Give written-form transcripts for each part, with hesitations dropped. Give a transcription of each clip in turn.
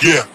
Yeah.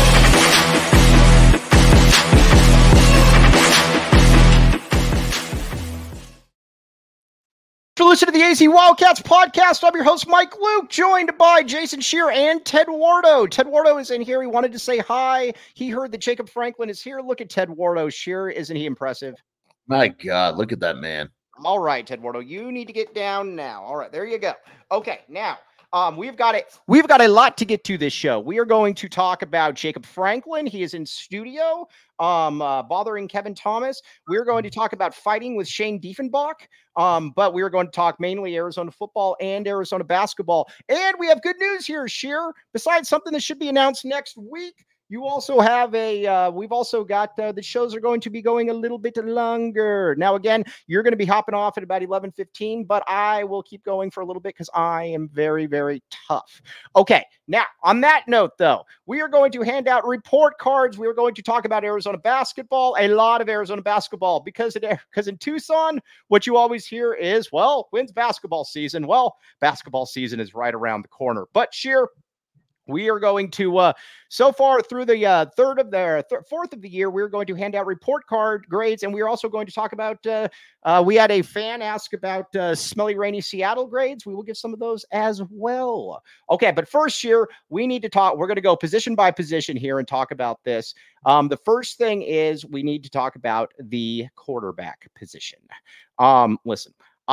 To listen to the AZ Wildcats podcast, I'm your host, Mike Luke, joined by Jason Shear and Ted Wardo. Ted Wardo is in here. He wanted to say hi. He heard that Jacob Franklin is here. Look at Ted Wardo. Shear, isn't he impressive? My God, look at that man. All right, Ted Wardo, you need to get down now. All right, there you go. Okay, now we've got a lot to get to this show. We are going to talk about Jacob Franklin. He is in studio, bothering Kevin Thomas. We're going to talk about fighting with Shane Diefenbach. But we are going to talk mainly Arizona football and Arizona basketball. And we have good news here, Shear. Besides something that should be announced next week, you also have we've also got the shows are going to be going a little bit longer. Now, again, you're going to be hopping off at about 11:15, but I will keep going for a little bit because I am very, very tough. Okay, now, on that note, though, we are going to hand out report cards. We are going to talk about Arizona basketball, a lot of Arizona basketball, because in Tucson, what you always hear is, well, when's basketball season? Well, basketball season is right around the corner. But, Shear, we are going to, so far through the fourth of the year, we're going to hand out report card grades, and we're also going to talk about, we had a fan ask about smelly, rainy Seattle grades. We will give some of those as well. Okay, but first, year, we need to talk, we're going to go position by position here and talk about this. The first thing is we need to talk about the quarterback position. Listen,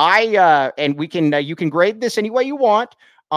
and we can, you can grade this any way you want.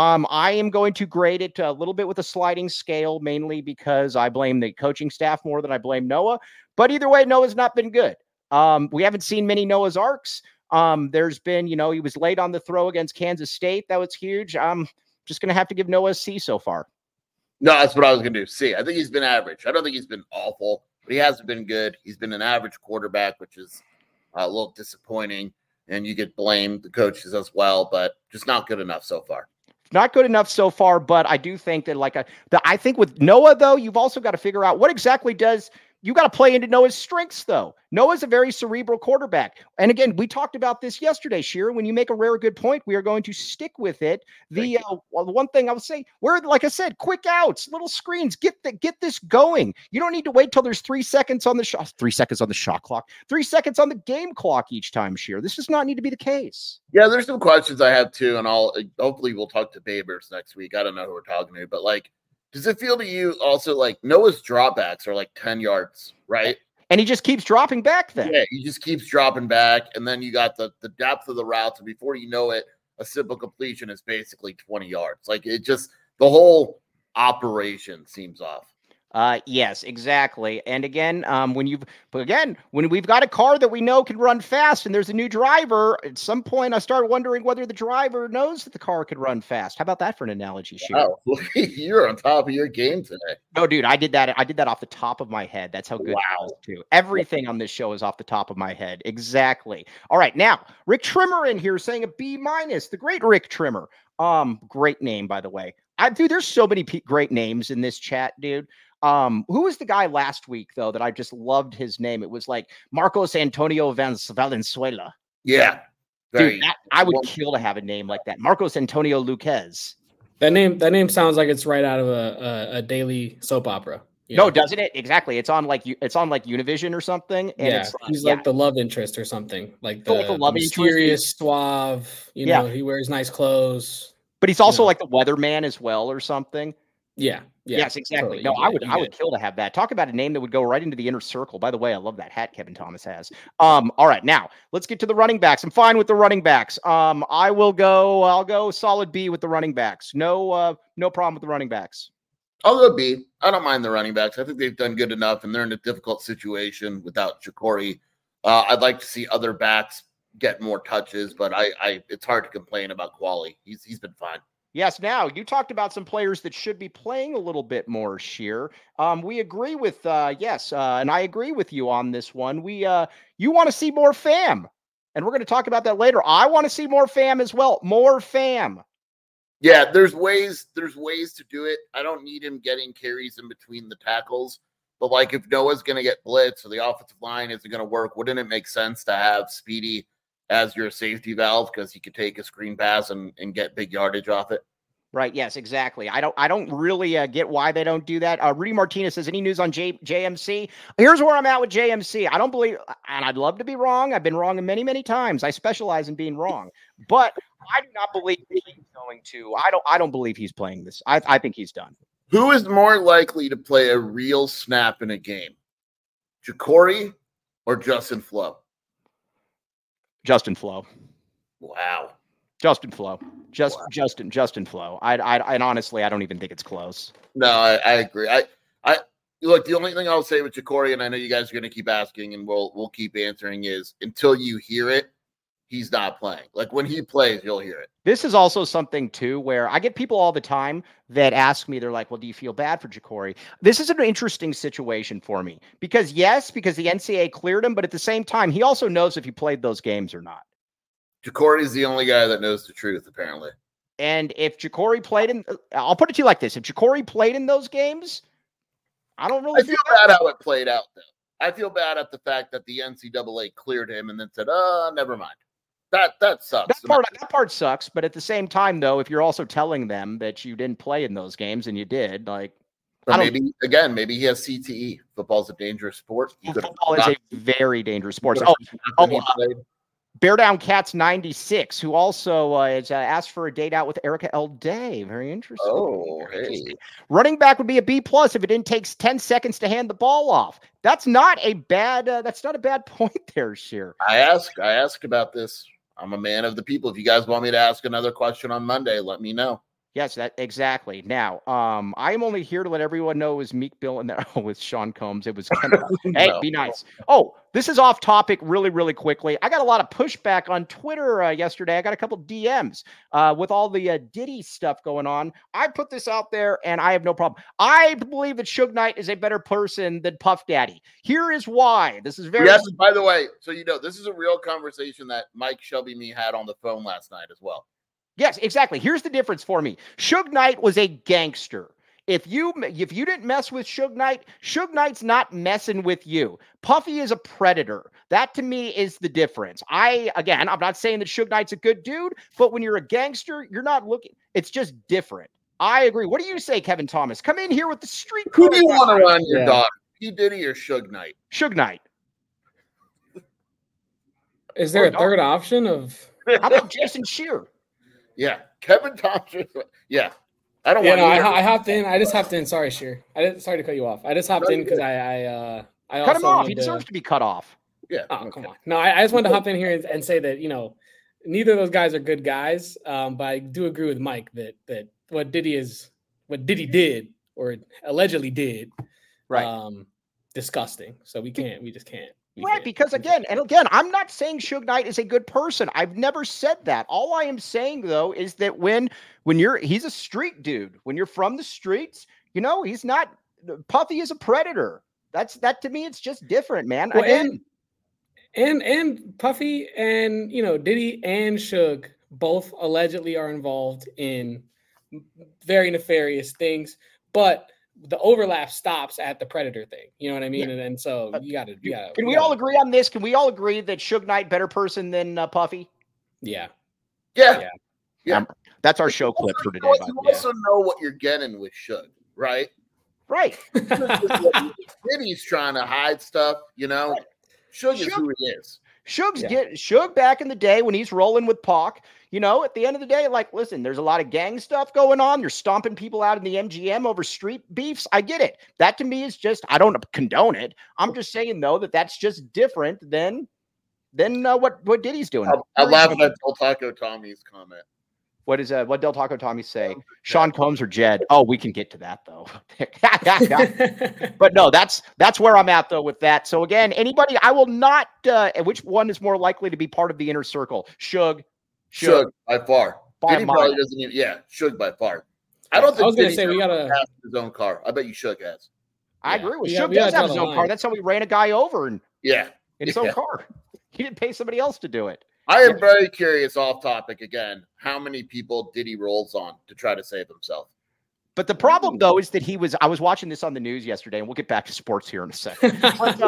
I am going to grade it a little bit with a sliding scale, mainly because I blame the coaching staff more than I blame Noah. But either way, Noah's not been good. We haven't seen many Noah's Arks. There's been, he was late on the throw against Kansas State. That was huge. I'm just going to have to give Noah a C so far. No, that's what I was going to do. C. I think he's been average. I don't think he's been awful, but he hasn't been good. He's been an average quarterback, which is a little disappointing. And you could blame the coaches as well, but just not good enough so far. Not good enough so far, but I do think that I think with Noah, though, you've also got to figure out what exactly you got to play into Noah's strengths, though. Noah's a very cerebral quarterback. And again, we talked about this yesterday, Shear. When you make a rare good point, we are going to stick with it. The one thing I would say, like I said, quick outs, little screens, get this going. You don't need to wait till there's 3 seconds on the shot, 3 seconds on the shot clock, 3 seconds on the game clock each time, Shear. This does not need to be the case. Yeah, there's some questions I have too, and hopefully we'll talk to Babers next week. I don't know who we're talking to, but does it feel to you also like Noah's dropbacks are like 10 yards, right? And he just keeps dropping back then. Yeah, he just keeps dropping back. And then you got the depth of the routes. And before you know it, a simple completion is basically 20 yards. The whole operation seems off. Yes, exactly. And again, when we've got a car that we know can run fast and there's a new driver, at some point I start wondering whether the driver knows that the car could run fast. How about that for an analogy, Shear? Oh, you're on top of your game today. No, dude, I did that off the top of my head. That's how good it was too. Everything on this show is off the top of my head. Exactly. All right. Now, Rick Trimmer in here saying a B-, the great Rick Trimmer. Great name, by the way. Dude, there's so many great names in this chat, dude. Who was the guy last week, though, that I just loved his name? It was like Marcos Antonio Valenzuela. Yeah. Dude, I would kill to have a name like that. Marcos Antonio Luquez. That name sounds like it's right out of a daily soap opera. No, doesn't it? Exactly. It's on like Univision or something. And he's like the love interest or something. Like the mysterious, suave, he wears nice clothes. But he's also like the weatherman as well or something. Yeah. Yes, exactly. No, I would kill to have that. Talk about a name that would go right into the inner circle. By the way, I love that hat Kevin Thomas has. All right, now let's get to the running backs. I'm fine with the running backs. I'll go solid B with the running backs. No problem with the running backs. I'll go B. I don't mind the running backs. I think they've done good enough, and they're in a difficult situation without Jacory. I'd like to see other backs get more touches, but it's hard to complain about Quali. He's been fine. Yes. Now you talked about some players that should be playing a little bit more, Shear. We agree with, and I agree with you on this one. You want to see more fam, and we're going to talk about that later. I want to see more fam as well. More fam. Yeah, there's ways to do it. I don't need him getting carries in between the tackles, but if Noah's going to get blitzed or the offensive line isn't going to work, wouldn't it make sense to have Speedy as your safety valve because he could take a screen pass and get big yardage off it? Right. Yes, exactly. I don't really get why they don't do that. Rudy Martinez says, any news on JMC? Here's where I'm at with JMC. I don't believe, and I'd love to be wrong. I've been wrong many, many times. I specialize in being wrong, but I do not believe he's going to. I don't believe he's playing this. I think he's done. Who is more likely to play a real snap in a game? Jacory or Justin Flo? Justin Flo. Wow. Justin Flo. Justin Flo. And honestly, I don't even think it's close. No, I agree. I look, the only thing I'll say with Jacory, and I know you guys are going to keep asking and we'll keep answering, is until you hear it, he's not playing. Like when he plays, you'll hear it. This is also something too, where I get people all the time that ask me, they're like, well, do you feel bad for Jacory? This is an interesting situation for me because the NCAA cleared him, but at the same time, he also knows if he played those games or not. Jacory is the only guy that knows the truth, apparently. And if Jacory played in, I'll put it to you like this: if Jacory played in those games, I don't really. I feel bad how it played out, though. I feel bad at the fact that the NCAA cleared him and then said, never mind. That sucks. That part sucks. But at the same time, though, if you're also telling them that you didn't play in those games and you did, like, maybe he has CTE. Football's a dangerous sport. Football is a very dangerous sport. Bear Down Cats 96, who also has asked for a date out with Erica L. Day. Very interesting. Oh, hey. Running back would be a B+ if it didn't take 10 seconds to hand the ball off. That's not a bad point there, Sheer. I asked about this. I'm a man of the people. If you guys want me to ask another question on Monday, let me know. Yes, that exactly. Now, I am only here to let everyone know it was Meek Bill and with Sean Combs. It was hey, be nice. Oh, this is off topic really, really quickly. I got a lot of pushback on Twitter yesterday. I got a couple DMs with all the Diddy stuff going on. I put this out there and I have no problem. I believe that Suge Knight is a better person than Puff Daddy. Here is why. This is very Yes, by the way, so this is a real conversation that Mike Shelby me had on the phone last night as well. Yes, exactly. Here's the difference for me. Suge Knight was a gangster. If you didn't mess with Suge Knight's not messing with you. Puffy is a predator. That to me is the difference. I'm not saying that Suge Knight's a good dude, but when you're a gangster, you're not looking. It's just different. I agree. What do you say, Kevin Thomas? Come in here with the street. Who do you want to run your daughter? P. Diddy or Suge Knight? Suge Knight. Is there a third option of? How about Jason Shear? Yeah, Kevin Thompson. Yeah, I don't want. I hopped in. I just hopped in. Sorry, Sheer. Sorry to cut you off. I just hopped in because I cut him off. He deserves to be cut off. Yeah. Oh, come on. No, I just wanted to hop in here and say that neither of those guys are good guys. But I do agree with Mike that what Diddy did or allegedly did, right? Disgusting. So we just can't. Right, because again, I'm not saying Suge Knight is a good person. I've never said that. All I am saying though is that when he's a street dude. When you're from the streets, he's not. Puffy is a predator. That to me, it's just different, man. Well, and Puffy and Diddy and Suge both allegedly are involved in very nefarious things, but the overlap stops at the predator thing. You know what I mean? Yeah. And so you got to. Can we all agree on this? Can we all agree that Suge Knight better person than Puffy? Yeah. That's our show clip for today. You also know what you're getting with Suge, right? Right. Diddy's trying to hide stuff, Suge is who he is. Suge back in the day when he's rolling with Pac, at the end of the day, like, listen, there's a lot of gang stuff going on. You're stomping people out in the MGM over street beefs. I get it. That to me is just, I don't condone it. I'm just saying though, that's just different than what Diddy's doing. I laugh at Del Taco Tommy's comment. What Del Taco Tommy say? Sean Combs or Jed? Oh, we can get to that though. But no, that's where I'm at though with that. So again, anybody, I will not. Which one is more likely to be part of the inner circle? Suge by far. Diddy probably doesn't even. Yeah, Suge by far. I don't think. I was going to say we gotta have his own car. I bet you Suge has. I agree with Suge. Does have his own car. That's how we ran a guy over in his own car. He didn't pay somebody else to do it. I am very curious, off topic again, how many people Diddy rolls on to try to save himself. But the problem, though, is that I was watching this on the news yesterday, and we'll get back to sports here in a second.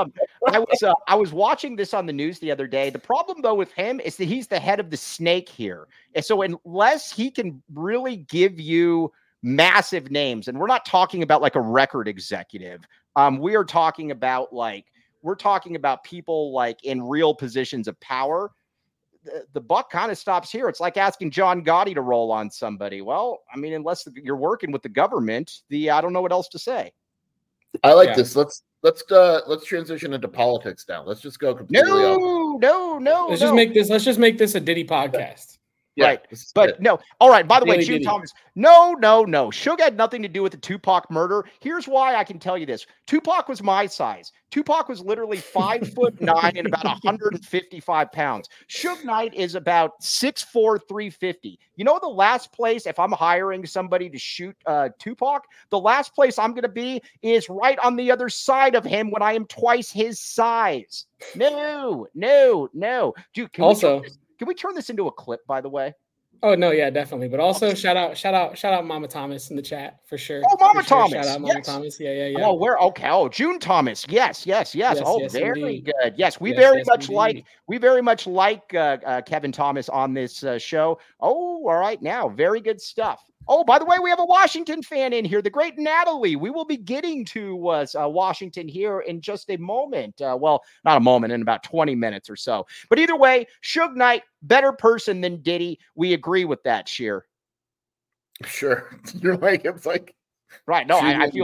I was watching this on the news the other day. The problem though with him is that he's the head of the snake here. And so unless he can really give you massive names, and we're not talking about like a record executive. We are talking about people like in real positions of power. The buck kind of stops here. It's like asking John Gotti to roll on somebody. Well, I mean, unless you're working with the government, I don't know what else to say. I like this. Let's transition into politics now. Let's just go completely No. Let's just make this a Diddy podcast. Yeah, right. But no. All right. By the way, June Thomas. No. Suge had nothing to do with the Tupac murder. Here's why I can tell you this. Tupac was my size. Tupac was literally 5'9" and about 155 pounds. Suge Knight is about 6'4", 350. You know the last place, if I'm hiring somebody to shoot Tupac, the last place I'm going to be is right on the other side of him when I am twice his size. No. Dude, can we turn this into a clip, by the way? Oh no, yeah, definitely. But also shout out Mama Thomas in the chat for sure. Oh, Mama Thomas. Shout out Mama Thomas. Yeah. Oh, where? Okay. Oh, June Thomas. Yes. Oh, very indeed. good. Yes, we very much like Kevin Thomas on this show. Oh, all right. Now, very good stuff. Oh, by the way, we have a Washington fan in here, the great Natalie. We will be getting to Washington here in just a moment. Well, not a moment, in about 20 minutes or so. But either way, Suge Knight, better person than Diddy. We agree with that, Sheer. Sure. You're like, it's like. Right. No,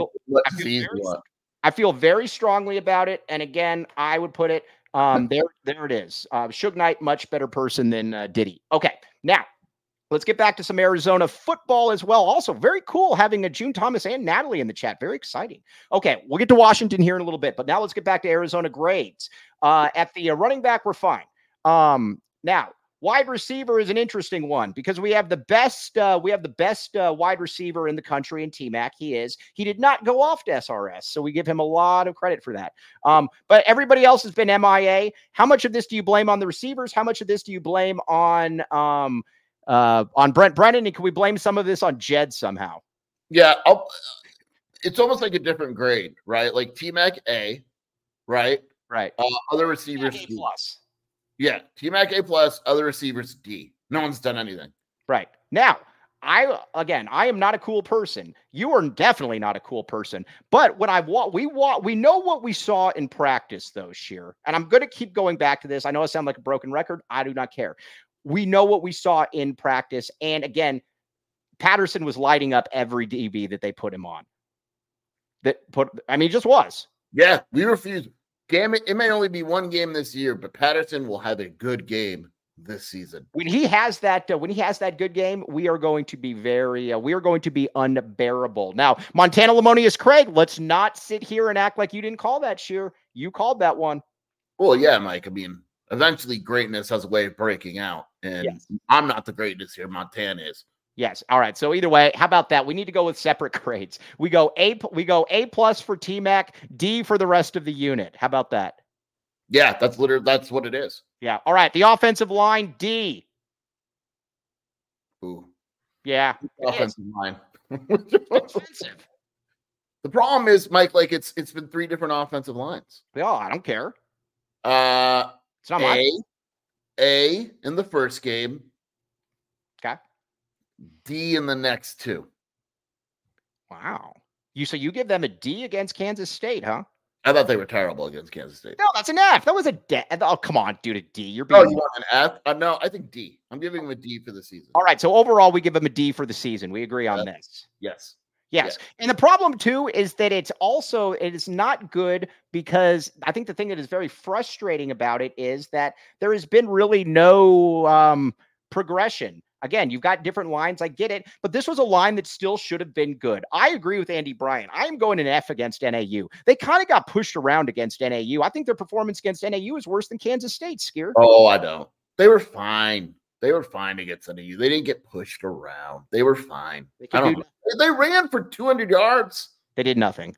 I feel very strongly about it. And again, I would put it there it is. Suge Knight, much better person than Diddy. Okay. Now, let's get back to some Arizona football as well. Also, very cool having a June Thomas and Natalie in the chat. Very exciting. Okay, we'll get to Washington here in a little bit, but now let's get back to Arizona grades. At the running back, we're fine. Now, wide receiver is an interesting one because we have the best wide receiver in the country in T-Mac. He did not go off to SRS, so we give him a lot of credit for that. But everybody else has been MIA. How much of this do you blame on the receivers? How much of this do you blame on Brent Brennan, and can we blame some of this on Jed somehow? Yeah, it's almost like a different grade, right? Like T-Mac A, right? Right. Other receivers A plus. Yeah, T-Mac A plus. Other receivers D. No one's done anything. Right. Now, I am not a cool person. You are definitely not a cool person. But when we know what we saw in practice, though, Sheer. And I'm going to keep going back to this. I know I sound like a broken record. I do not care. We know what we saw in practice. And again, Patterson was lighting up every DB that they put him on. He just was. Yeah, we refuse. Damn it. It may only be one game this year, but Patterson will have a good game this season. When he has that good game, we are going to be unbearable. Now, Montana Lamonius Craig, let's not sit here and act like you didn't call that, Sheer. You called that one. Well, yeah, Mike. I mean, eventually greatness has a way of breaking out. And yes. I'm not the greatness here. Montana is. Yes. All right. So either way, how about that? We need to go with separate grades. We go A plus for T-Mac, D for the rest of the unit. How about that? Yeah, that's what it is. Yeah. All right. The offensive line, D. Ooh. Yeah. Offensive line. Offensive. The problem is, Mike, like it's been 3 different offensive lines. Oh, I don't care. It's not A in the first game. Okay. D in the next 2. Wow. So you give them a D against Kansas State, huh? I thought they were terrible against Kansas State. No, that's an F. That was a D. Oh, come on, dude, a D. You're being you want an F? No, I think D. I'm giving them a D for the season. All right, so overall, we give them a D for the season. We agree on this. Yes. Yes. Yeah. And the problem, too, is that it is not good because I think the thing that is very frustrating about it is that there has been really no progression. Again, you've got different lines. I get it. But this was a line that still should have been good. I agree with Andy Bryan. I am going an F against NAU. They kind of got pushed around against NAU. I think their performance against NAU is worse than Kansas State, Skier. Oh, I don't. They were fine. They were fine against NAU. They didn't get pushed around. They were fine. They ran for 200 yards. They did nothing.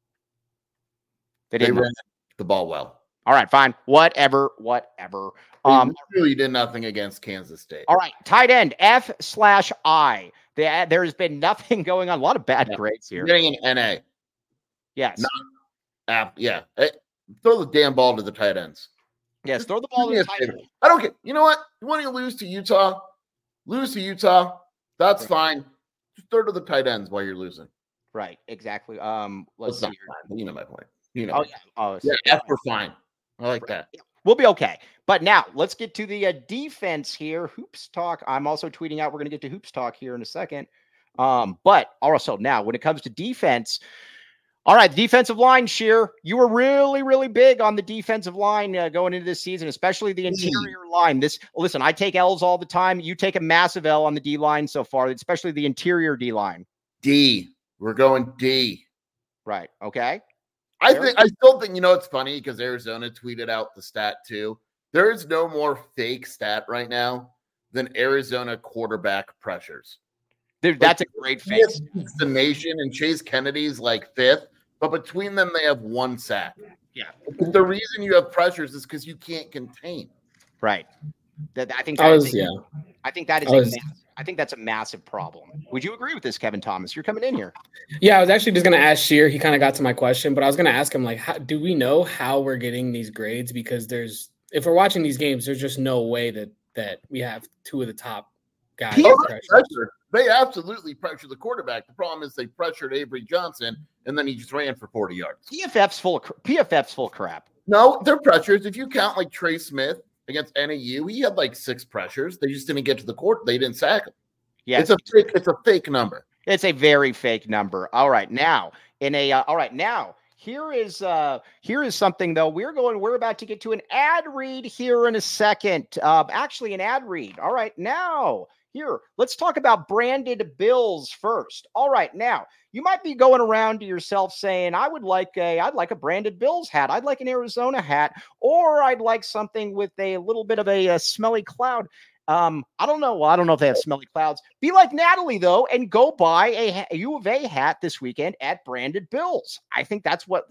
They ran the ball well. All right, fine. Whatever. They really did nothing against Kansas State. All right, tight end, F/I. There has been nothing going on. A lot of bad grades here. You're getting an NA. Yes. Yeah. Throw the damn ball to the tight ends. Yes, throw the ball to the tight end. I don't care. You know what? You want to lose to Utah? Lose to Utah. That's fine. Just throw to the tight ends while you're losing. Right, exactly. Let's That's see. not, you know my point. You know. Yeah, we're fine. I like that. We'll be okay. But now let's get to the defense here. Hoops talk. I'm also tweeting out. We're going to get to hoops talk here in a second. But also now when it comes to defense, all right, the defensive line, Sheer, you were really, really big on the defensive line going into this season, especially the interior line. Listen, I take L's all the time. You take a massive L on the D line so far, especially the interior D line. D. We're going D. Right. Okay. I still think, it's funny because Arizona tweeted out the stat too. There is no more fake stat right now than Arizona quarterback pressures. Dude, that's a great face. It's the nation, and Chase Kennedy's like 5th, but between them, they have 1 sack. Yeah. The reason you have pressures is because you can't contain. Right. I think that's a massive problem. Would you agree with this, Kevin Thomas? You're coming in here. Yeah, I was actually just going to ask Sheer. He kind of got to my question, but I was going to ask him, do we know how we're getting these grades? Because if we're watching these games, there's just no way that we have 2 of the top guys. They absolutely pressure the quarterback. The problem is they pressured Avery Johnson, and then he just ran for 40 yards. PFF's full of crap. No, they're pressures. If you count like Trey Smith against NAU, he had like 6 pressures. They just didn't get to the court. They didn't sack him. Yeah, it's a fake number. It's a very fake number. All right, now here is something though. We're about to get to an ad read here in a second. Actually, an ad read. All right, now. Here, let's talk about branded bills first. All right, now you might be going around to yourself saying, I'd like a branded Bills hat. I'd like an Arizona hat, or I'd like something with a little bit of a smelly cloud. I don't know. Well, I don't know if they have smelly clouds. Be like Natalie, though, and go buy a U of A hat this weekend at Branded Bills. I think that's what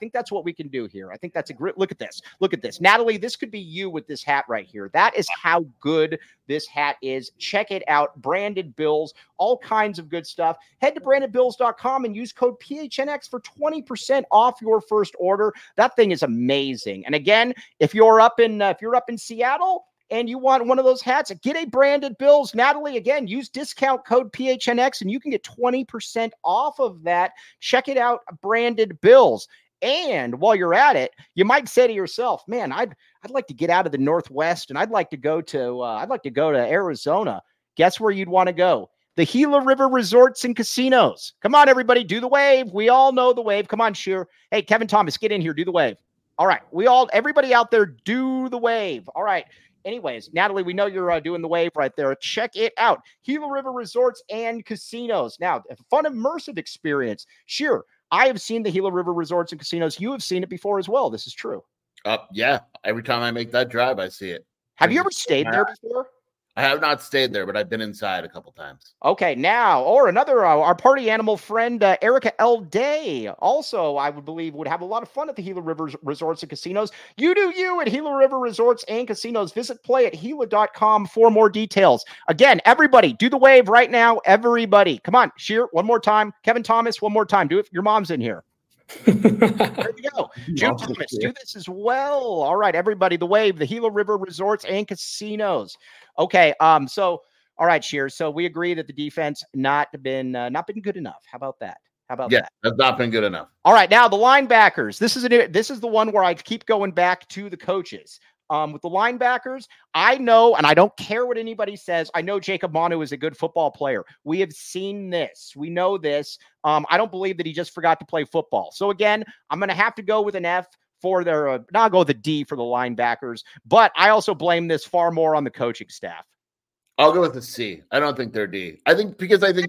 we can do here. I think that's a great look at this. Look at this. Natalie, this could be you with this hat right here. That is how good this hat is. Check it out. Branded Bills, all kinds of good stuff. Head to brandedbills.com and use code PHNX for 20% off your first order. That thing is amazing. And again, if you're up in Seattle, and you want one of those hats, get a Branded Bills. Natalie, again, use discount code PHNX and you can get 20% off of that. Check it out, Branded Bills. And while you're at it, you might say to yourself, man, I'd like to get out of the Northwest and I'd like to go to Arizona. Guess where you'd want to go? The Gila River Resorts and Casinos. Come on, everybody, do the wave. We all know the wave. Come on, Sheer. Hey, Kevin Thomas, get in here. Do the wave. All right. Everybody out there, do the wave. All right. Anyways, Natalie, we know you're doing the wave right there. Check it out. Gila River Resorts and Casinos. Now, a fun, immersive experience. Sure, I have seen the Gila River Resorts and Casinos. You have seen it before as well. This is true. Yeah. Every time I make that drive, I see it. Have you ever stayed there before? I have not stayed there, but I've been inside a couple times. Okay, now, or another, our party animal friend, Erica L. Day, also, I would believe, would have a lot of fun at the Gila River Resorts and Casinos. You do you at Gila River Resorts and Casinos. Visit play@gila.com for more details. Again, everybody, do the wave right now. Everybody. Come on, Sheer, one more time. Kevin Thomas, one more time. Do it. Your mom's in here. There you go. June Thomas, do this as well. All right, everybody, the wave, the Gila River Resorts and Casinos. Okay, so all right, Sheer. So we agree that the defense not been good enough. How about that? That? That's not been good enough. All right, now the linebackers. This is the one where I keep going back to the coaches. With the linebackers, I know, and I don't care what anybody says, I know Jacob Manu is a good football player. We have seen this. We know this. I don't believe that he just forgot to play football. So again, I'm going to have to go with an F for their, now I'll go with a D for the linebackers, but I also blame this far more on the coaching staff. I'll go with a C. I don't think they're D. I think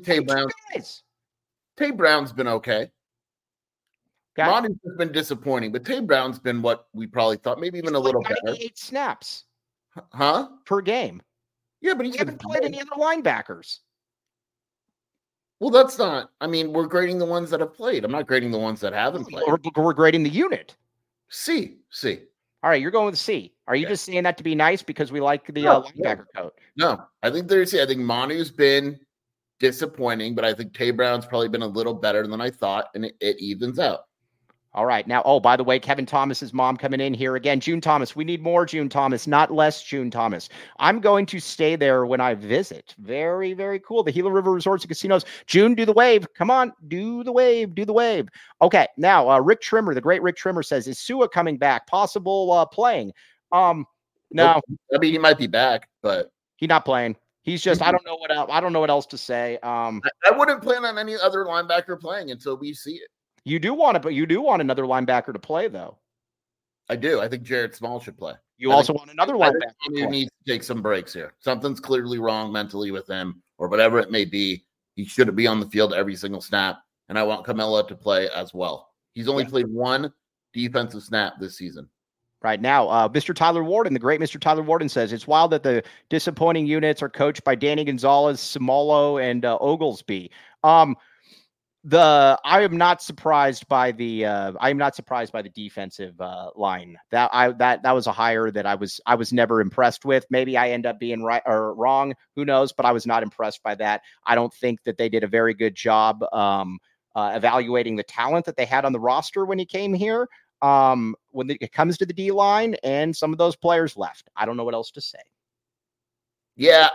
Tay Brown's been okay. Manu's been disappointing, but Tay Brown's been what we probably thought, maybe even a little better. 98 snaps. Huh? Per game. Yeah, but he hasn't played any other linebackers. Well, that's not, we're grading the ones that have played. I'm not grading the ones that haven't played. We're grading the unit. C. All right, you're going with C. Are you just saying that to be nice because we like the linebacker coach? No, I think there's C. I think Manu's been disappointing, but I think Tay Brown's probably been a little better than I thought, and it evens out. All right. Now, oh, by the way, Kevin Thomas's mom coming in here again. June Thomas. We need more June Thomas, not less June Thomas. I'm going to stay there when I visit. Very, very cool. The Gila River Resorts and Casinos. June, do the wave. Come on. Do the wave. Do the wave. Okay. Now, Rick Trimmer, the great Rick Trimmer says, is Sua coming back? Possible playing? No. I mean, he might be back, but he's not playing. He's just, I don't know what else. I don't know what else to say. I wouldn't plan on any other linebacker playing until we see it. You do want another linebacker to play, though. I do. I think Jared Small should play. You also want another linebacker. He needs to take some breaks here. Something's clearly wrong mentally with him, or whatever it may be. He shouldn't be on the field every single snap. And I want Camilla to play as well. He's only played one defensive snap this season. Right now, Mr. Tyler Warden, the great Mr. Tyler Warden says, it's wild that the disappointing units are coached by Danny Gonzalez, Samolo, and Oglesby. I am not surprised by the defensive line. That was a hire that I was never impressed with. Maybe I end up being right or wrong, who knows, but I was not impressed by that. I don't think that they did a very good job evaluating the talent that they had on the roster when he came here. When it comes to the D line, and some of those players left. I don't know what else to say. Yeah,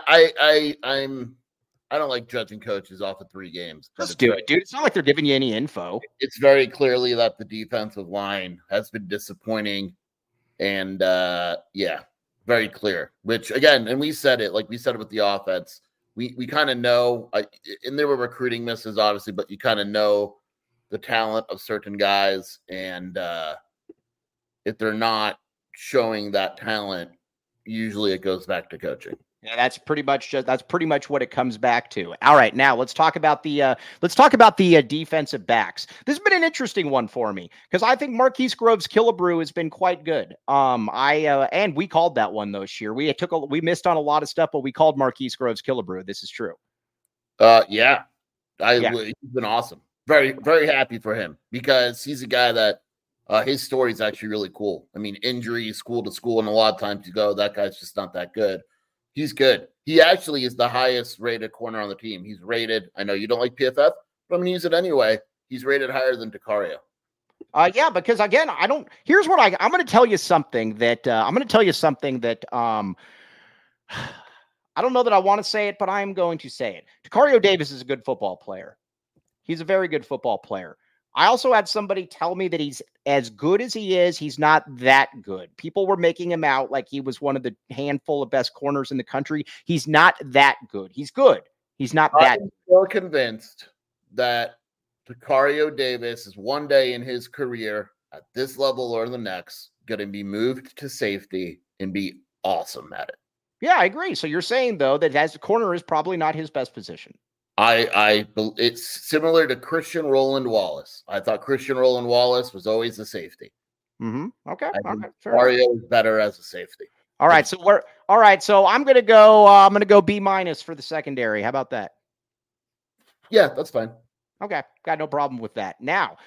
I don't like judging coaches off of 3 games. Just do it, dude. It's not like they're giving you any info. It's very clearly that the defensive line has been disappointing. And very clear. Which, again, and we said it with the offense. We kind of know, and there were recruiting misses, obviously, but you kind of know the talent of certain guys. And if they're not showing that talent, usually it goes back to coaching. Yeah, that's pretty much what it comes back to. All right, now let's talk about the defensive backs. This has been an interesting one for me because I think Marquise Groves Killebrew has been quite good. And we called that one this year. We missed on a lot of stuff, but we called Marquise Groves Killebrew. This is true. He's been awesome. Very, very happy for him because he's a guy that his story is actually really cool. I mean, injuries, school to school, and a lot of times you go, that guy's just not that good. He's good. He actually is the highest rated corner on the team. He's rated. I know you don't like PFF, but I'm going to use it anyway. He's rated higher than DeCario. Because again, here's what I'm going to tell you something that I don't know that I want to say it, but I'm going to say it. DeCario Davis is a good football player. He's a very good football player. I also had somebody tell me that he's as good as he is. He's not that good. People were making him out like he was one of the handful of best corners in the country. He's not that good. He's good. He's not that. I'm so convinced that DeCario Davis is one day in his career at this level or the next going to be moved to safety and be awesome at it. Yeah, I agree. So you're saying, though, that as a corner is probably not his best position. It's similar to Christian Roland Wallace. I thought Christian Roland Wallace was always a safety. Mm-hmm. Okay. Mario is better as a safety. All right. So I'm gonna go B- for the secondary. How about that? Yeah, that's fine. Okay, got no problem with that. Now,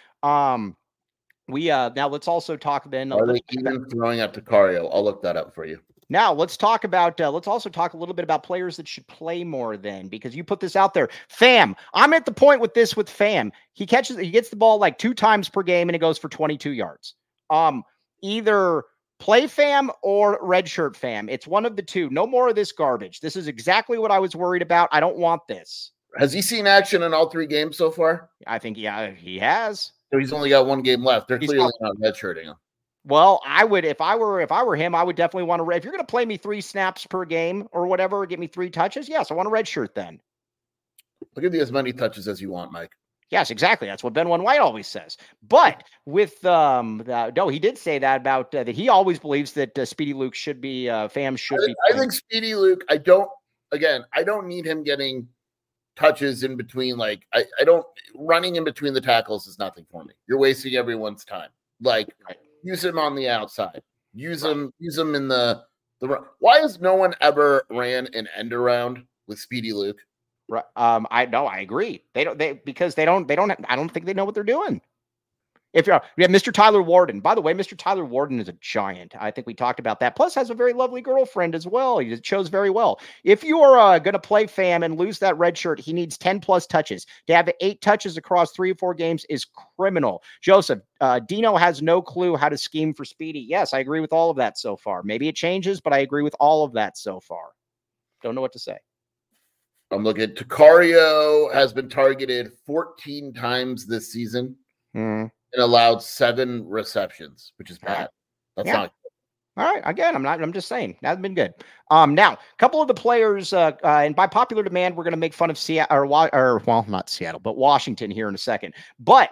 let's also talk then. Are they even throwing out DeCario? I'll look that up for you. Now let's talk about. Let's also talk a little bit about players that should play more. Then, because you put this out there, Fam. I'm at the point with this with Fam. He gets the ball like 2 times per game, and it goes for 22 yards. Either play Fam or redshirt Fam. It's one of the two. No more of this garbage. This is exactly what I was worried about. I don't want this. Has he seen action in all 3 games so far? I think he has. So he's only got 1 game left. They're clearly not redshirting him. Well, I would, if I were him, I would definitely want to. If you're going to play me 3 snaps per game or whatever, or get me 3 touches, yes, I want a red shirt then. I'll give you as many touches as you want, Mike. Yes, exactly. That's what Ben One White always says. But with he did say that about that he always believes that Speedy Luke should be Fam should be. I think Speedy Luke. I don't need him getting touches in between. Like I don't running in between the tackles is nothing for me. You're wasting everyone's time. Like. Right. Use him on the outside. Use him in the run. Why has no one ever ran an end around with Speedy Luke? I agree. I don't think they know what they're doing. If you're, yeah, Mr. Tyler Warden. By the way, Mr. Tyler Warden is a giant. I think we talked about that. Plus, has a very lovely girlfriend as well. He shows very well. If you are going to play Fam and lose that red shirt, he needs 10 plus touches. To have 8 touches across 3 or 4 games is criminal. Joseph, Dino has no clue how to scheme for Speedy. Yes, I agree with all of that so far. Maybe it changes, but I agree with all of that so far. Don't know what to say. I'm looking at Takario has been targeted 14 times this season. And allowed 7 receptions, which is bad. That's not good. All right. Again, I'm just saying that's been good. Now, a couple of the players, and by popular demand, we're going to make fun of Seattle, well, not Seattle, but Washington here in a second. But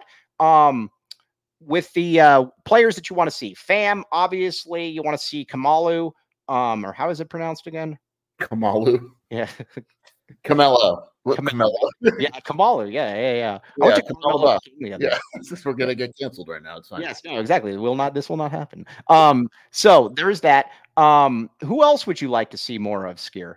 with the players that you want to see, Fam, obviously, you want to see Kamalu, or how is it pronounced again? Kamalu. Yeah. Camelo. Yeah, Kamalu. Yeah. Yeah, we're gonna get canceled right now. It's fine. Yes, no, exactly. This will not happen. So there's that. Who else would you like to see more of, Skier?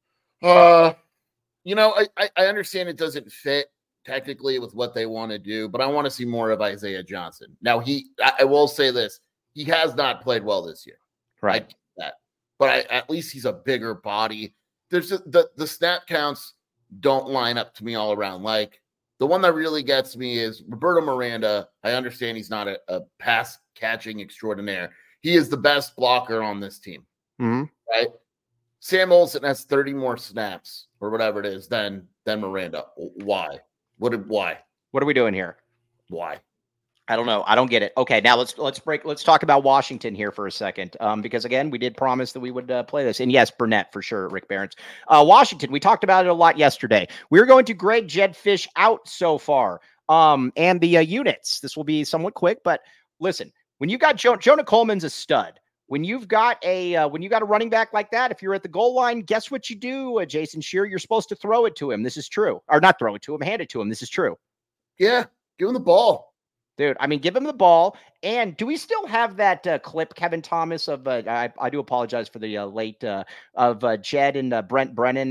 I understand it doesn't fit technically with what they want to do, but I want to see more of Isaiah Johnson. Now, I will say this: he has not played well this year, right? But at least he's a bigger body. There's the snap counts don't line up to me all around. Like the one that really gets me is Roberto Miranda. I understand he's not a pass catching extraordinaire. He is the best blocker on this team, right? Sam Olsen has 30 more snaps or whatever it is than Miranda. Why? What are we doing here? Why? I don't know. I don't get it. Okay, now let's talk about Washington here for a second. Because again, we did promise that we would play this. And yes, Burnett for sure, Rick Barons. Washington, we talked about it a lot yesterday. We're going to grade Jedd Fisch out so far. And the units. This will be somewhat quick, but listen, when you got Jonah Coleman's a stud. When you've got a running back like that, if you're at the goal line, guess what you do, Jason Scheer? You're supposed to throw it to him. This is true. Or not throw it to him, hand it to him. This is true. Yeah, give him the ball. Dude, I mean, give him the ball. And do we still have that clip, Kevin Thomas, of I do apologize for the late of Jed and Brennan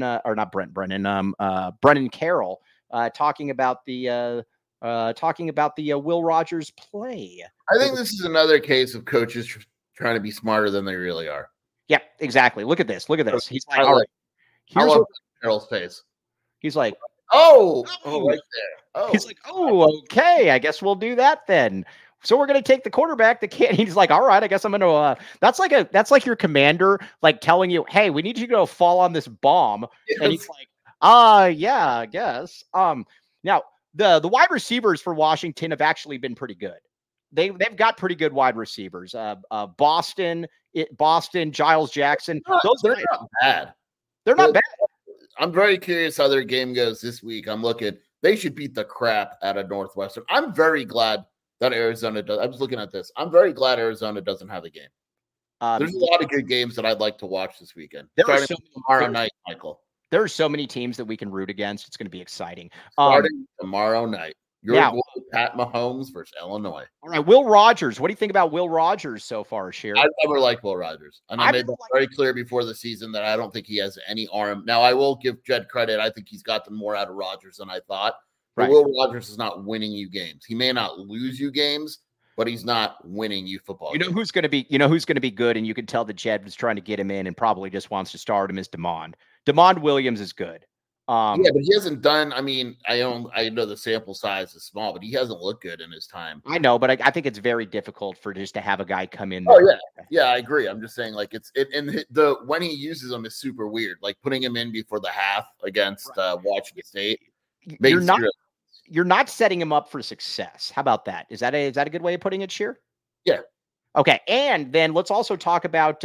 Carroll talking about the Will Rogers play. I think this is another case of coaches trying to be smarter than they really are. Yeah, exactly. Look at this. He's like, all right. Here's Carroll's face. He's like, oh, right there. Oh. He's like, oh, okay. I guess we'll do that then. So we're going to take the quarterback. He's like, all right, I guess I'm going to, that's like your commander, like telling you, hey, we need you to go fall on this bomb. Yes. And he's like, yeah, I guess. Now the wide receivers for Washington have actually been pretty good. They've got pretty good wide receivers. Boston, Giles Jackson. They're not bad. They're not bad. I'm very curious how their game goes this week. They should beat the crap out of Northwestern. I'm very glad that Arizona does. I was looking at this. I'm very glad Arizona doesn't have a game. There's a lot of good games that I'd like to watch this weekend. Tomorrow night, Michael. There are so many teams that we can root against. It's going to be exciting. Starting tomorrow night. Pat Mahomes versus Illinois. All right, Will Rogers. What do you think about Will Rogers so far, Scheer? I've never liked Will Rogers. And I made that very clear before the season that I don't think he has any arm. Now, I will give Jed credit. I think he's gotten more out of Rogers than I thought. But Will Rogers is not winning you games. He may not lose you games, but he's not winning you football games. Who's going to be good, and you can tell that Jed was trying to get him in and probably just wants to start him, is Demond. Demond Williams is good. Yeah, but he hasn't done. I mean, I know the sample size is small, but he hasn't looked good in his time. I know, but I think it's very difficult for just to have a guy come in. Oh yeah, I agree. I'm just saying, like when he uses them is super weird. Like putting him in before the half against Washington State. You're not setting him up for success. How about that? Is that a good way of putting it, Scheer? Yeah. Okay, and then let's also talk about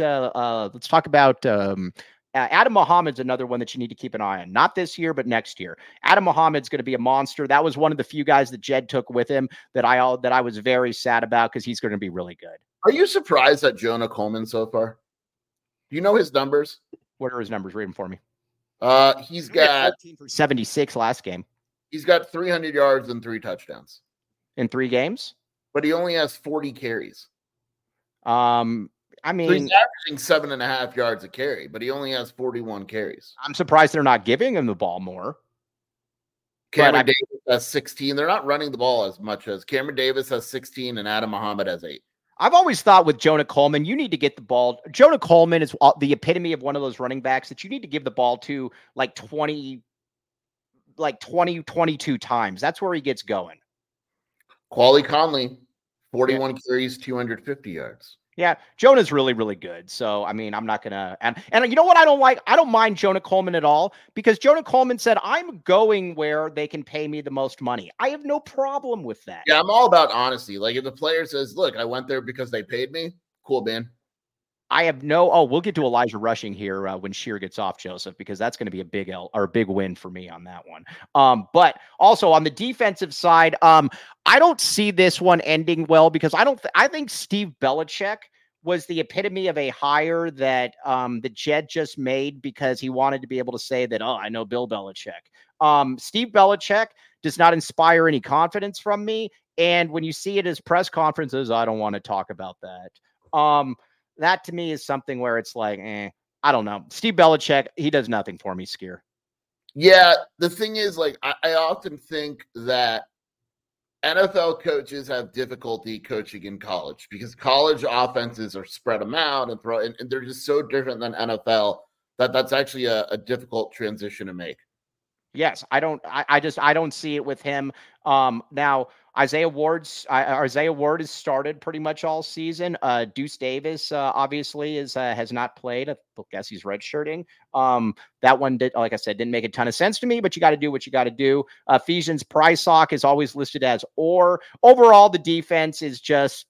Adam Muhammad's another one that you need to keep an eye on. Not this year, but next year. Adam Muhammad's going to be a monster. That was one of the few guys that Jed took with him that I was very sad about because he's going to be really good. Are you surprised at Jonah Coleman so far? Do you know his numbers? What are his numbers? Read them for me. He's got 14 for 76 last game. He's got 300 yards and 3 touchdowns in 3 games, but he only has 40 carries. I mean, so he's averaging 7.5 yards a carry, but he only has 41 carries. I'm surprised they're not giving him the ball more. Cameron Davis has 16. They're not running the ball as much as Cameron Davis has 16 and Adam Muhammad has 8. I've always thought with Jonah Coleman, you need to get the ball. Jonah Coleman is the epitome of one of those running backs that you need to give the ball to like 20, 22 times. That's where he gets going. Quali Conley, 41 carries, 250 yards. Yeah, Jonah's really, really good. So, I mean, I'm not going to, and you know what I don't like? I don't mind Jonah Coleman at all because Jonah Coleman said, I'm going where they can pay me the most money. I have no problem with that. Yeah, I'm all about honesty. Like if the player says, look, I went there because they paid me. Cool, man. I have no, we'll get to Elijah Rushing here when Shear gets off, Joseph, because that's going to be a big big win for me on that one. But also on the defensive side, I don't see this one ending well because I think Steve Belichick was the epitome of a hire that the Jet just made because he wanted to be able to say that, I know Bill Belichick. Steve Belichick does not inspire any confidence from me. And when you see it as press conferences, I don't want to talk about that. That to me is something where it's like, I don't know. Steve Belichick, he does nothing for me, Skier. Yeah, the thing is, like, I often think that NFL coaches have difficulty coaching in college because college offenses are spread them out and they're just so different than NFL that's actually a difficult transition to make. Yes, I don't see it with him. Now Isaiah Ward has started pretty much all season. Deuce Davis obviously has not played. I guess he's redshirting. That one did, like I said, didn't make a ton of sense to me, but you got to do what you got to do. Ephesians Prysock is always listed as or. Overall, the defense is just,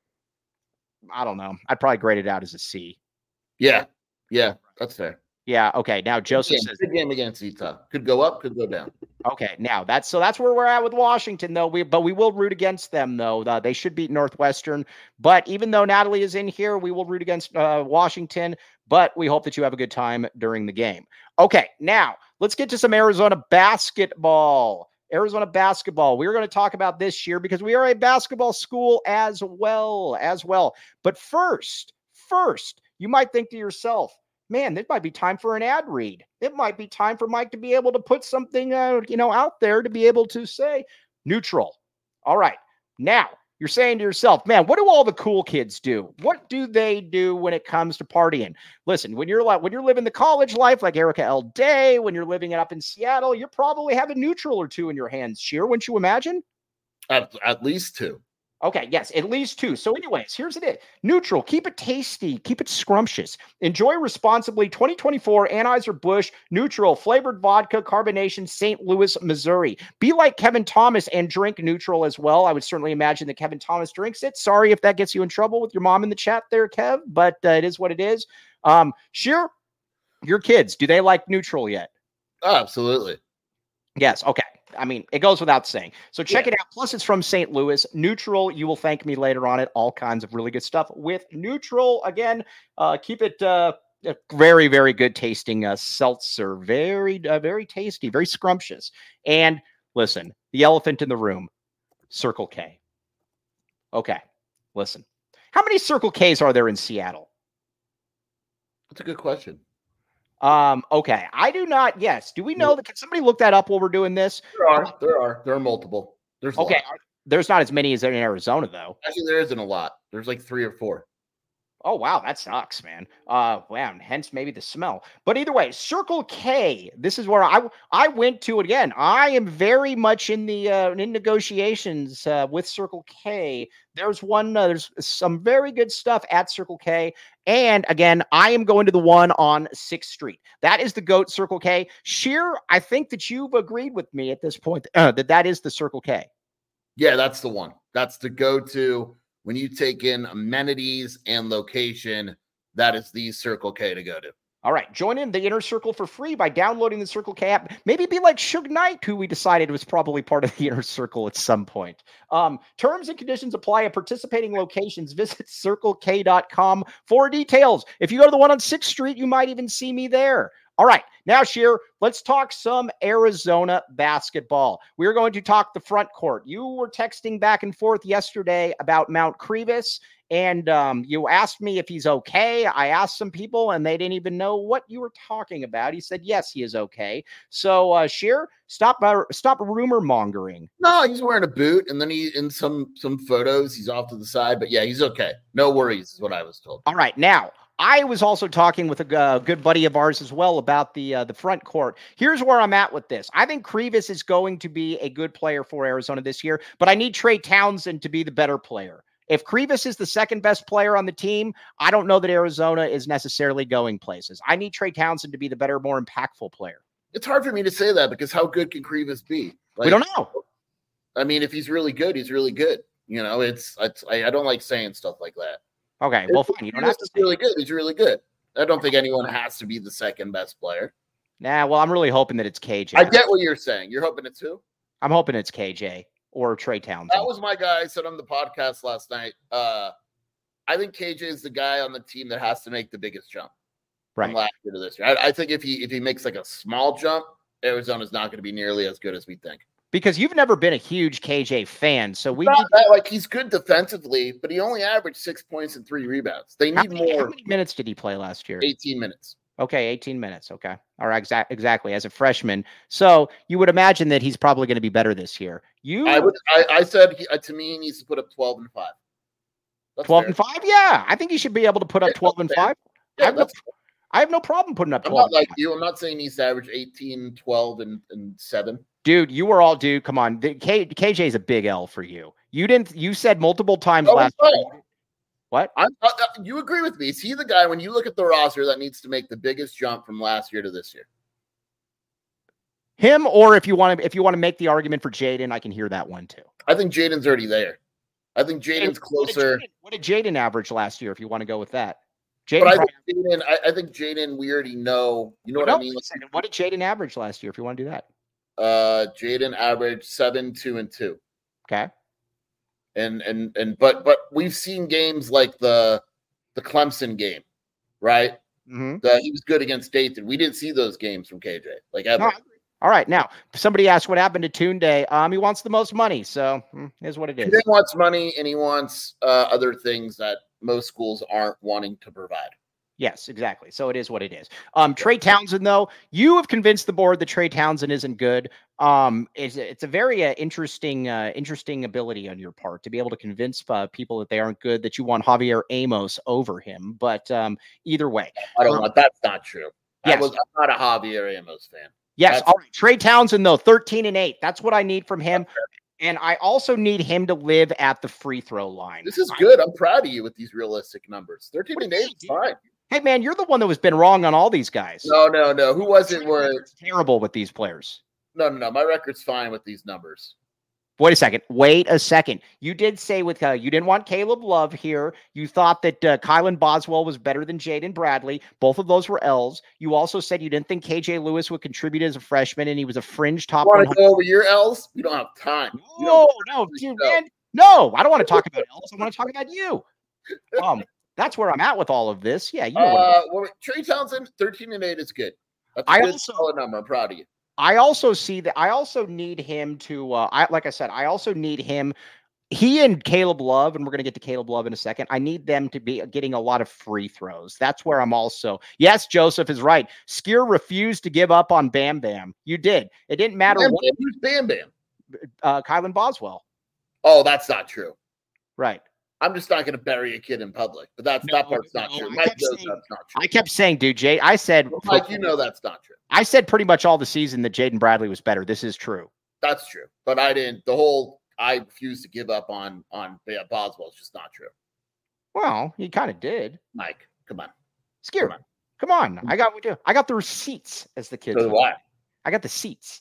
I don't know. I'd probably grade it out as a C. Yeah, that's fair. Yeah. Okay. Now Joseph says good game against Utah. Could go up, could go down. Okay. Now that's where we're at with Washington, though. But we will root against them, though. They should beat Northwestern. But even though Natalie is in here, we will root against Washington. But we hope that you have a good time during the game. Okay. Now let's get to some Arizona basketball. Arizona basketball. We're going to talk about this year because we are a basketball school as well. But first, you might think to yourself, man, it might be time for an ad read. It might be time for Mike to be able to put something, out there to be able to say neutral. All right. Now you're saying to yourself, man, what do all the cool kids do? What do they do when it comes to partying? Listen, when you're living the college life, like Erica L. Day, when you're living it up in Seattle, you probably have a neutral or two in your hands. Sheer, wouldn't you imagine? At least 2. Okay, yes, at least 2. So anyways, here's it. Neutral, keep it tasty, keep it scrumptious. Enjoy responsibly 2024 Anheuser-Busch Neutral flavored vodka carbonation, St. Louis, Missouri. Be like Kevin Thomas and drink neutral as well. I would certainly imagine that Kevin Thomas drinks it. Sorry if that gets you in trouble with your mom in the chat there, Kev, but it is what it is. Sheer, your kids, do they like neutral yet? Oh, absolutely. Yes, okay. I mean, it goes without saying. So check it out. Plus, it's from St. Louis. Neutral. You will thank me later on it. All kinds of really good stuff with neutral. Again, keep it very, very good tasting seltzer. Very, very tasty. Very scrumptious. And listen, the elephant in the room, Circle K. Okay, listen. How many Circle Ks are there in Seattle? That's a good question. Okay. I do not. Yes. Do we know that? Can somebody look that up while we're doing this? There are multiple. There's okay. There's not as many as in Arizona, though. Actually, there isn't a lot. There's like 3 or 4. Oh, wow. That sucks, man. Wow. Hence maybe the smell. But either way, Circle K, this is where I went to it again. I am very much in the in negotiations with Circle K. There's some very good stuff at Circle K. And again, I am going to the one on 6th Street. That is the GOAT Circle K. Sheer, I think that you've agreed with me at this point that is the Circle K. Yeah, that's the one. That's the go-to. When you take in amenities and location, that is the Circle K to go to. All right. Join in the Inner Circle for free by downloading the Circle K app. Maybe be like Suge Knight, who we decided was probably part of the Inner Circle at some point. Terms and conditions apply at participating locations. Visit circlek.com for details. If you go to the one on 6th Street, you might even see me there. All right. Now, Sheer, let's talk some Arizona basketball. We're going to talk the front court. You were texting back and forth yesterday about Mount Krivas, and you asked me if he's okay. I asked some people, and they didn't even know what you were talking about. He said, yes, he is okay. So, Sheer, stop rumor mongering. No, he's wearing a boot, and then in some photos, he's off to the side. But yeah, he's okay. No worries is what I was told. All right. Now, I was also talking with a good buddy of ours as well about the front court. Here's where I'm at with this. I think Krivas is going to be a good player for Arizona this year, but I need Trey Townsend to be the better player. If Krivas is the second best player on the team, I don't know that Arizona is necessarily going places. I need Trey Townsend to be the better, more impactful player. It's hard for me to say that because how good can Krivas be? We don't know. I mean, if he's really good, he's really good. You know, I don't like saying stuff like that. Okay, well, fine. You don't have to say really good. He's really good. I don't think anyone has to be the second best player. Nah, well, I'm really hoping that it's KJ. I get what you're saying. You're hoping it's who? I'm hoping it's KJ or Trey Townsend. That was my guy. I said on the podcast last night. I think KJ is the guy on the team that has to make the biggest jump from last year to this year. I think if he makes like a small jump, Arizona's not going to be nearly as good as we think. Because you've never been a huge KJ fan, so we need like he's good defensively, but he only averaged 6 points and 3 rebounds. They need more. How many minutes did he play last year? 18 minutes. Okay, 18 minutes. Okay, all right, exactly. As a freshman, so you would imagine that he's probably going to be better this year. I said to me he needs to put up 12 and 5. That's 12 fair. And 5. Yeah, I think he should be able to put up 12 and 5. Yeah, I have no problem putting up 12. I'm not like you. I'm not saying he needs to average 18, 12, and 7. Dude, come on. KJ is a big L for you. You said multiple times last week. What? You agree with me. Is he the guy, when you look at the roster, that needs to make the biggest jump from last year to this year? Him, or if you want to make the argument for Jaden, I can hear that one too. I think Jaden's already there. I think Jaden's closer. What did Jaden average last year, if you want to go with that? I think Jaden, we already know. You know what I mean? What did Jaden average last year, if you want to do that? Jaden averaged 7, 2, and 2. Okay. But we've seen games like the Clemson game, right? Mm-hmm. He was good against Dayton. We didn't see those games from KJ, like ever. No, all right. Now, somebody asked what happened to Tunde. He wants the most money, so here's what it is. He wants money, and he wants other things that most schools aren't wanting to provide. Yes, exactly. So it is what it is. Trey Townsend, though, you have convinced the board that Trey Townsend isn't good. It's a very interesting ability on your part to be able to convince people that they aren't good, that you want Javier Amos over him. But either way, I don't know. That's not true. Yes. I'm not a Javier Amos fan. Yes. All right. Trey Townsend, though, 13 and 8. That's what I need from him. And I also need him to live at the free throw line. This is good. I'm proud of you with these realistic numbers. 13 and 8 is fine. Hey, man, you're the one that was been wrong on all these guys. No. Who was it? It's terrible with these players. No. My record's fine with these numbers. Wait a second. You did say with you didn't want Caleb Love here. You thought that Kylan Boswell was better than Jaden Bradley. Both of those were L's. You also said you didn't think KJ Lewis would contribute as a freshman, and he was a fringe top. Want to go over your L's? We don't have time. No, dude, man. No, I don't want to talk about L's. I want to talk about you. That's where I'm at with all of this. Yeah, you know. Trey Townsend, 13 and 8 is good. That's a good solid number. I'm proud of you. I also see that. I also need him to. Like I said, I also need him. He and Caleb Love, and we're going to get to Caleb Love in a second. I need them to be getting a lot of free throws. That's where I'm also. Yes, Joseph is right. Skier refused to give up on Bam Bam. You did. It didn't matter. Who's Bam Bam? Kylan Boswell. Oh, that's not true. Right. I'm just not going to bury a kid in public, but that part's not true. Mike knows that's not true. I kept saying, dude, Jay, I said, Mike, you know that's not true. I said pretty much all the season that Jaden Bradley was better. This is true. That's true, but I didn't. I refused to give up on Boswell. It's just not true. Well, he kind of did. Mike, come on, Skier, come on. I got the receipts, as the kids. So do I. I got the seats.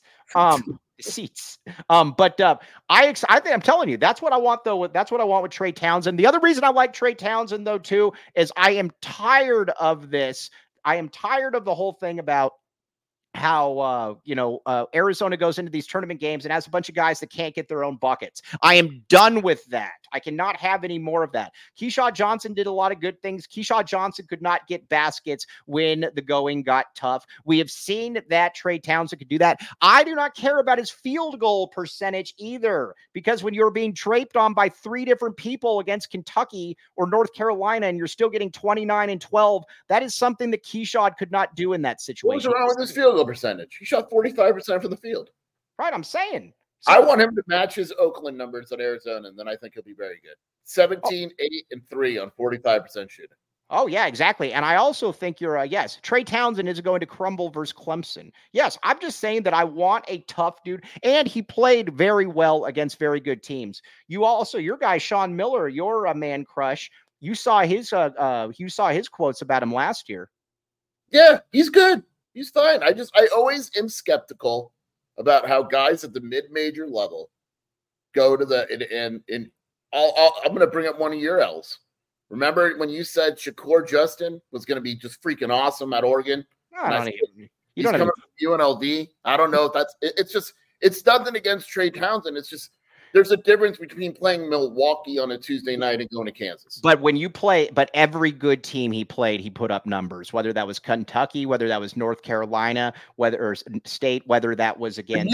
Seats. But I'm telling you, that's what I want though. That's what I want with Trey Townsend. The other reason I like Trey Townsend though too is I am tired of this. I am tired of the whole thing about Arizona goes into these tournament games and has a bunch of guys that can't get their own buckets. I am done with that. I cannot have any more of that. Keyshawn Johnson did a lot of good things. Keyshawn Johnson could not get baskets when the going got tough. We have seen that Trey Townsend could do that. I do not care about his field goal percentage either, because when you're being draped on by 3 different people against Kentucky or North Carolina and you're still getting 29 and 12, that is something that Keyshawn could not do in that situation. What was wrong with his field goal percentage? He shot 45% from the field. Right, I'm saying. I want him to match his Oakland numbers at Arizona, and then I think he'll be very good. 17, 8, and 3 on 45% shooting. Oh, yeah, exactly. And I also think yes, Trey Townsend is going to crumble versus Clemson. Yes, I'm just saying that I want a tough dude, and he played very well against very good teams. Your guy, Sean Miller, your man crush, you saw his quotes about him last year. Yeah, he's good. He's fine. I always am skeptical about how guys at the mid-major level go to I'm going to bring up one of your L's. Remember when you said Shakur Justin was going to be just freaking awesome at Oregon? He's coming from UNLV. I don't know if it's nothing against Trey Townsend. It's just there's a difference between playing Milwaukee on a Tuesday night and going to Kansas. But every good team he played, he put up numbers, whether that was Kentucky, whether that was North Carolina, or State, whether that was against.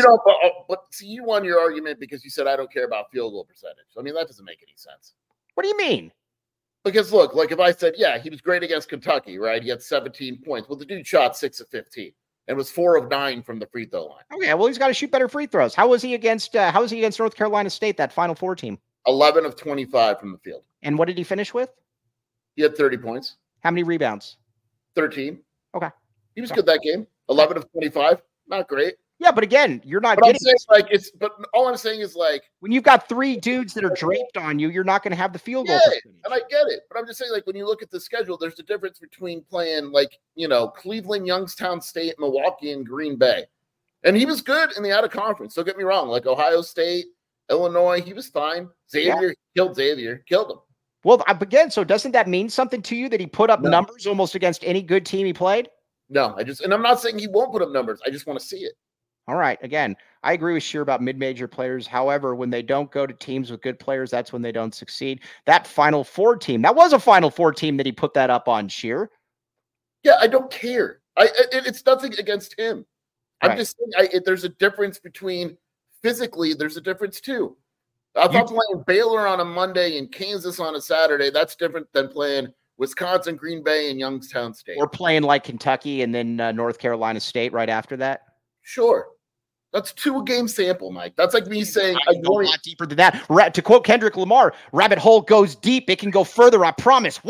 You won your argument because you said, I don't care about field goal percentage. I mean, that doesn't make any sense. What do you mean? Because look, like if I said, yeah, he was great against Kentucky, right? He had 17 points. Well, the dude shot 6 of 15. And was 4 of 9 from the free throw line. Okay, well, he's got to shoot better free throws. How was he against North Carolina State, that Final Four team? 11 of 25 from the field. And what did he finish with? He had 30 points. How many rebounds? 13. Okay. He was good that game. 11 of 25. Not great. Yeah, but again, you're not getting it. But all I'm saying is when you've got 3 dudes that are draped on you, you're not going to have the field goal. And I get it. But I'm just saying, when you look at the schedule, there's a difference between playing Cleveland, Youngstown State, Milwaukee, and Green Bay. And he was good in the out of conference. Don't get me wrong. Ohio State, Illinois, he was fine. Xavier killed him. Well, again, so doesn't that mean something to you that he put up numbers almost against any good team he played? No, and I'm not saying he won't put up numbers. I just want to see it. All right. Again, I agree with Sheer about mid-major players. However, when they don't go to teams with good players, that's when they don't succeed. That Final Four team, that was a Final Four team that he put that up on, Sheer. Yeah, I don't care. It's nothing against him. I'm just saying there's a difference between physically. There's a difference too. I thought playing Baylor on a Monday and Kansas on a Saturday, that's different than playing Wisconsin, Green Bay, and Youngstown State. Or playing like Kentucky and then North Carolina State right after that. Sure. That's 2 game sample, Mike. That's like me saying I go a lot deeper than that. To quote Kendrick Lamar, rabbit hole goes deep. It can go further. I promise.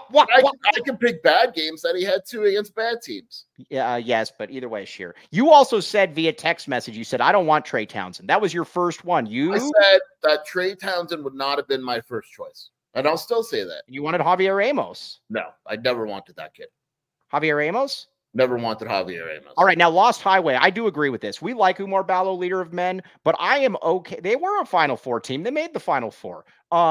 I can pick bad games that he had 2 against bad teams. Yeah, yes, but either way, Sheer. You also said via text message, you said, I don't want Trey Townsend. That was your first one. I said that Trey Townsend would not have been my first choice. And I'll still say that. You wanted Javier Ramos. No, I never wanted that kid. Javier Ramos? Never wanted Javier Ramos. All right, now Lost Highway. I do agree with this. We like Oumar Ballo, leader of men, but I am okay. They were a Final Four team. They made the Final Four.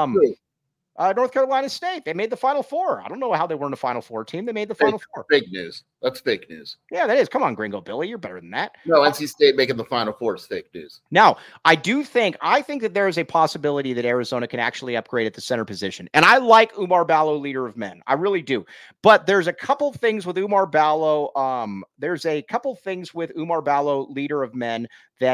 North Carolina State, they made the Final Four. I don't know how they weren't a Final Four team. They made the Final Four. Fake news. That's fake news. Yeah, that is. Come on, Gringo Billy. You're better than that. No, NC State making the Final Four is fake news. Now, I think that there is a possibility that Arizona can actually upgrade at the center position. And I like Oumar Ballo, leader of men. I really do. But there's a couple things with Oumar Ballo. Leader of men,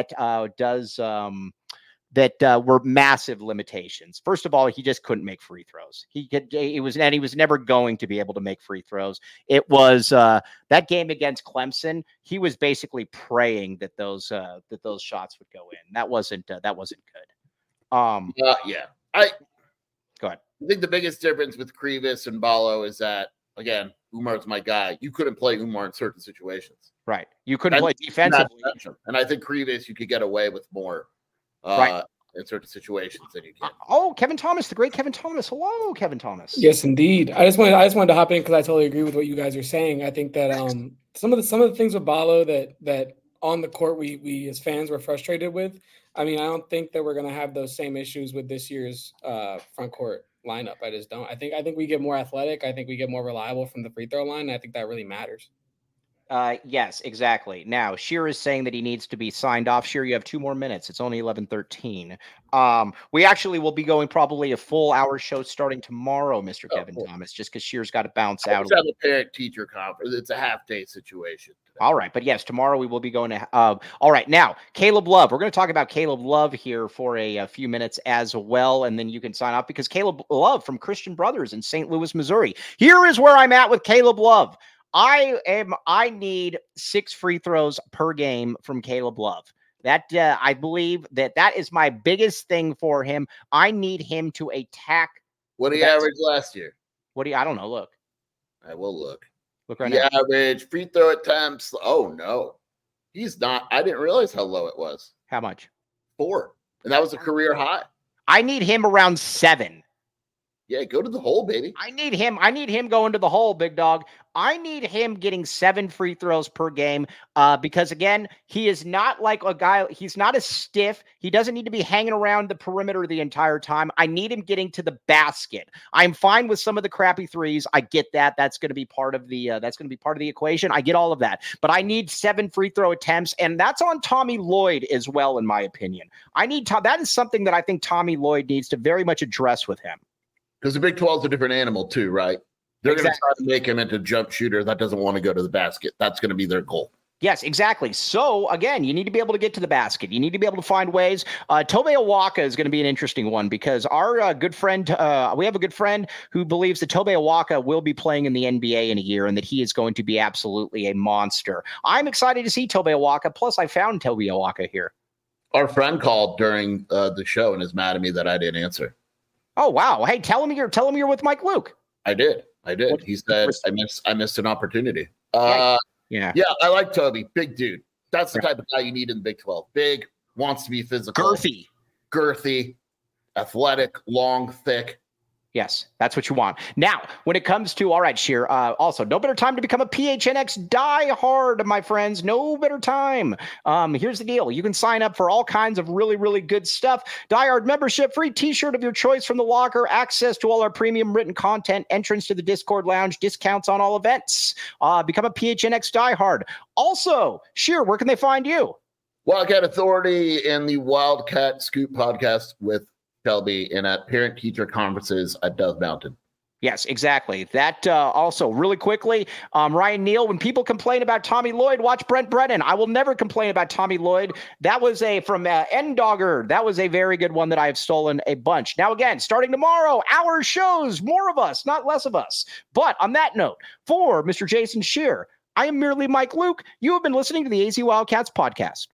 that were massive limitations. First of all, he just couldn't make free throws. He was never going to be able to make free throws. It was that game against Clemson. He was basically praying that those shots would go in. That wasn't good. Yeah. Go ahead. I think the biggest difference with Krivas and Ballo is that, again, Umar's my guy. You couldn't play Oumar in certain situations. Right. You couldn't play defensively. And I think Krivas, you could get away with more. In certain situations than you can. Oh, Kevin Thomas, the great Kevin Thomas. Hello, Kevin Thomas. Yes, indeed. I just wanted to hop in because I totally agree with what you guys are saying. I think that some of the things with Ballo that on the court we as fans were frustrated with. I mean, I don't think that we're going to have those same issues with this year's front court lineup. I just don't. I think we get more athletic. I think we get more reliable from the free throw line. And I think that really matters. Yes, exactly. Now, Sheer is saying that he needs to be signed off. Sheer, you have 2 more minutes. It's only 11:13. We actually will be going probably a full hour show starting tomorrow, Mr. Kevin cool. Thomas, just because Sheer's got to bounce I out. just have a parent-teacher conference. It's a half-day situation today. All right. But yes, tomorrow we will be going to. All right. Now, Caleb Love. We're going to talk about Caleb Love here for a few minutes as well. And then you can sign off because Caleb Love from Christian Brothers in St. Louis, Missouri. Here is where I'm at with Caleb Love. I need 6 free throws per game from Caleb Love. That I believe that is my biggest thing for him. I need him to attack. What did he average last year? I don't know. Look. I will look. Look right now. Average free throw attempts. Oh no, he's not. I didn't realize how low it was. How much? 4, and that was a career high. I need him around 7. Yeah, go to the hole, baby. I need him going to the hole, big dog. I need him getting 7 free throws per game because, again, he is not like a guy. He's not as stiff. He doesn't need to be hanging around the perimeter the entire time. I need him getting to the basket. I'm fine with some of the crappy threes. I get that. That's going to be part of the equation. I get all of that. But I need 7 free throw attempts, and that's on Tommy Lloyd as well, in my opinion. That is something that I think Tommy Lloyd needs to very much address with him. Because the Big 12 is a different animal too, right? They're going to try to make him into a jump shooter that doesn't want to go to the basket. That's going to be their goal. Yes, exactly. So, again, you need to be able to get to the basket. You need to be able to find ways. Tobe Awaka is going to be an interesting one because our good friend, we have a good friend who believes that Tobe Awaka will be playing in the NBA in a year and that he is going to be absolutely a monster. I'm excited to see Tobe Awaka. Plus, I found Tobe Awaka here. Our friend called during the show and is mad at me that I didn't answer. Oh, wow. Hey, tell him you're with Mike Luke. I did. He said I missed an opportunity. Yeah. I like Toby. Big dude. That's the type of guy you need in the Big 12. Big, wants to be physical. Girthy, athletic, long, thick. Yes, that's what you want. Now, when it comes to, all right, Sheer, also, no better time to become a PHNX diehard, my friends. No better time. Here's the deal. You can sign up for all kinds of really, really good stuff. Diehard membership, free t-shirt of your choice from the locker, access to all our premium written content, entrance to the Discord lounge, discounts on all events. Become a PHNX diehard. Also, Sheer, where can they find you? Wildcat Authority and the Wildcat Scoop podcast with Shelby and at parent-teacher conferences at Dove Mountain. Yes, exactly. That also, really quickly, Ryan Neal, when people complain about Tommy Lloyd, watch Brent Brennan. I will never complain about Tommy Lloyd. That was from N-Dogger. That was a very good one that I have stolen a bunch. Now, again, starting tomorrow, our shows, more of us, not less of us. But on that note, for Mr. Jason Shear, I am merely Mike Luke. You have been listening to the AZ Wildcats podcast.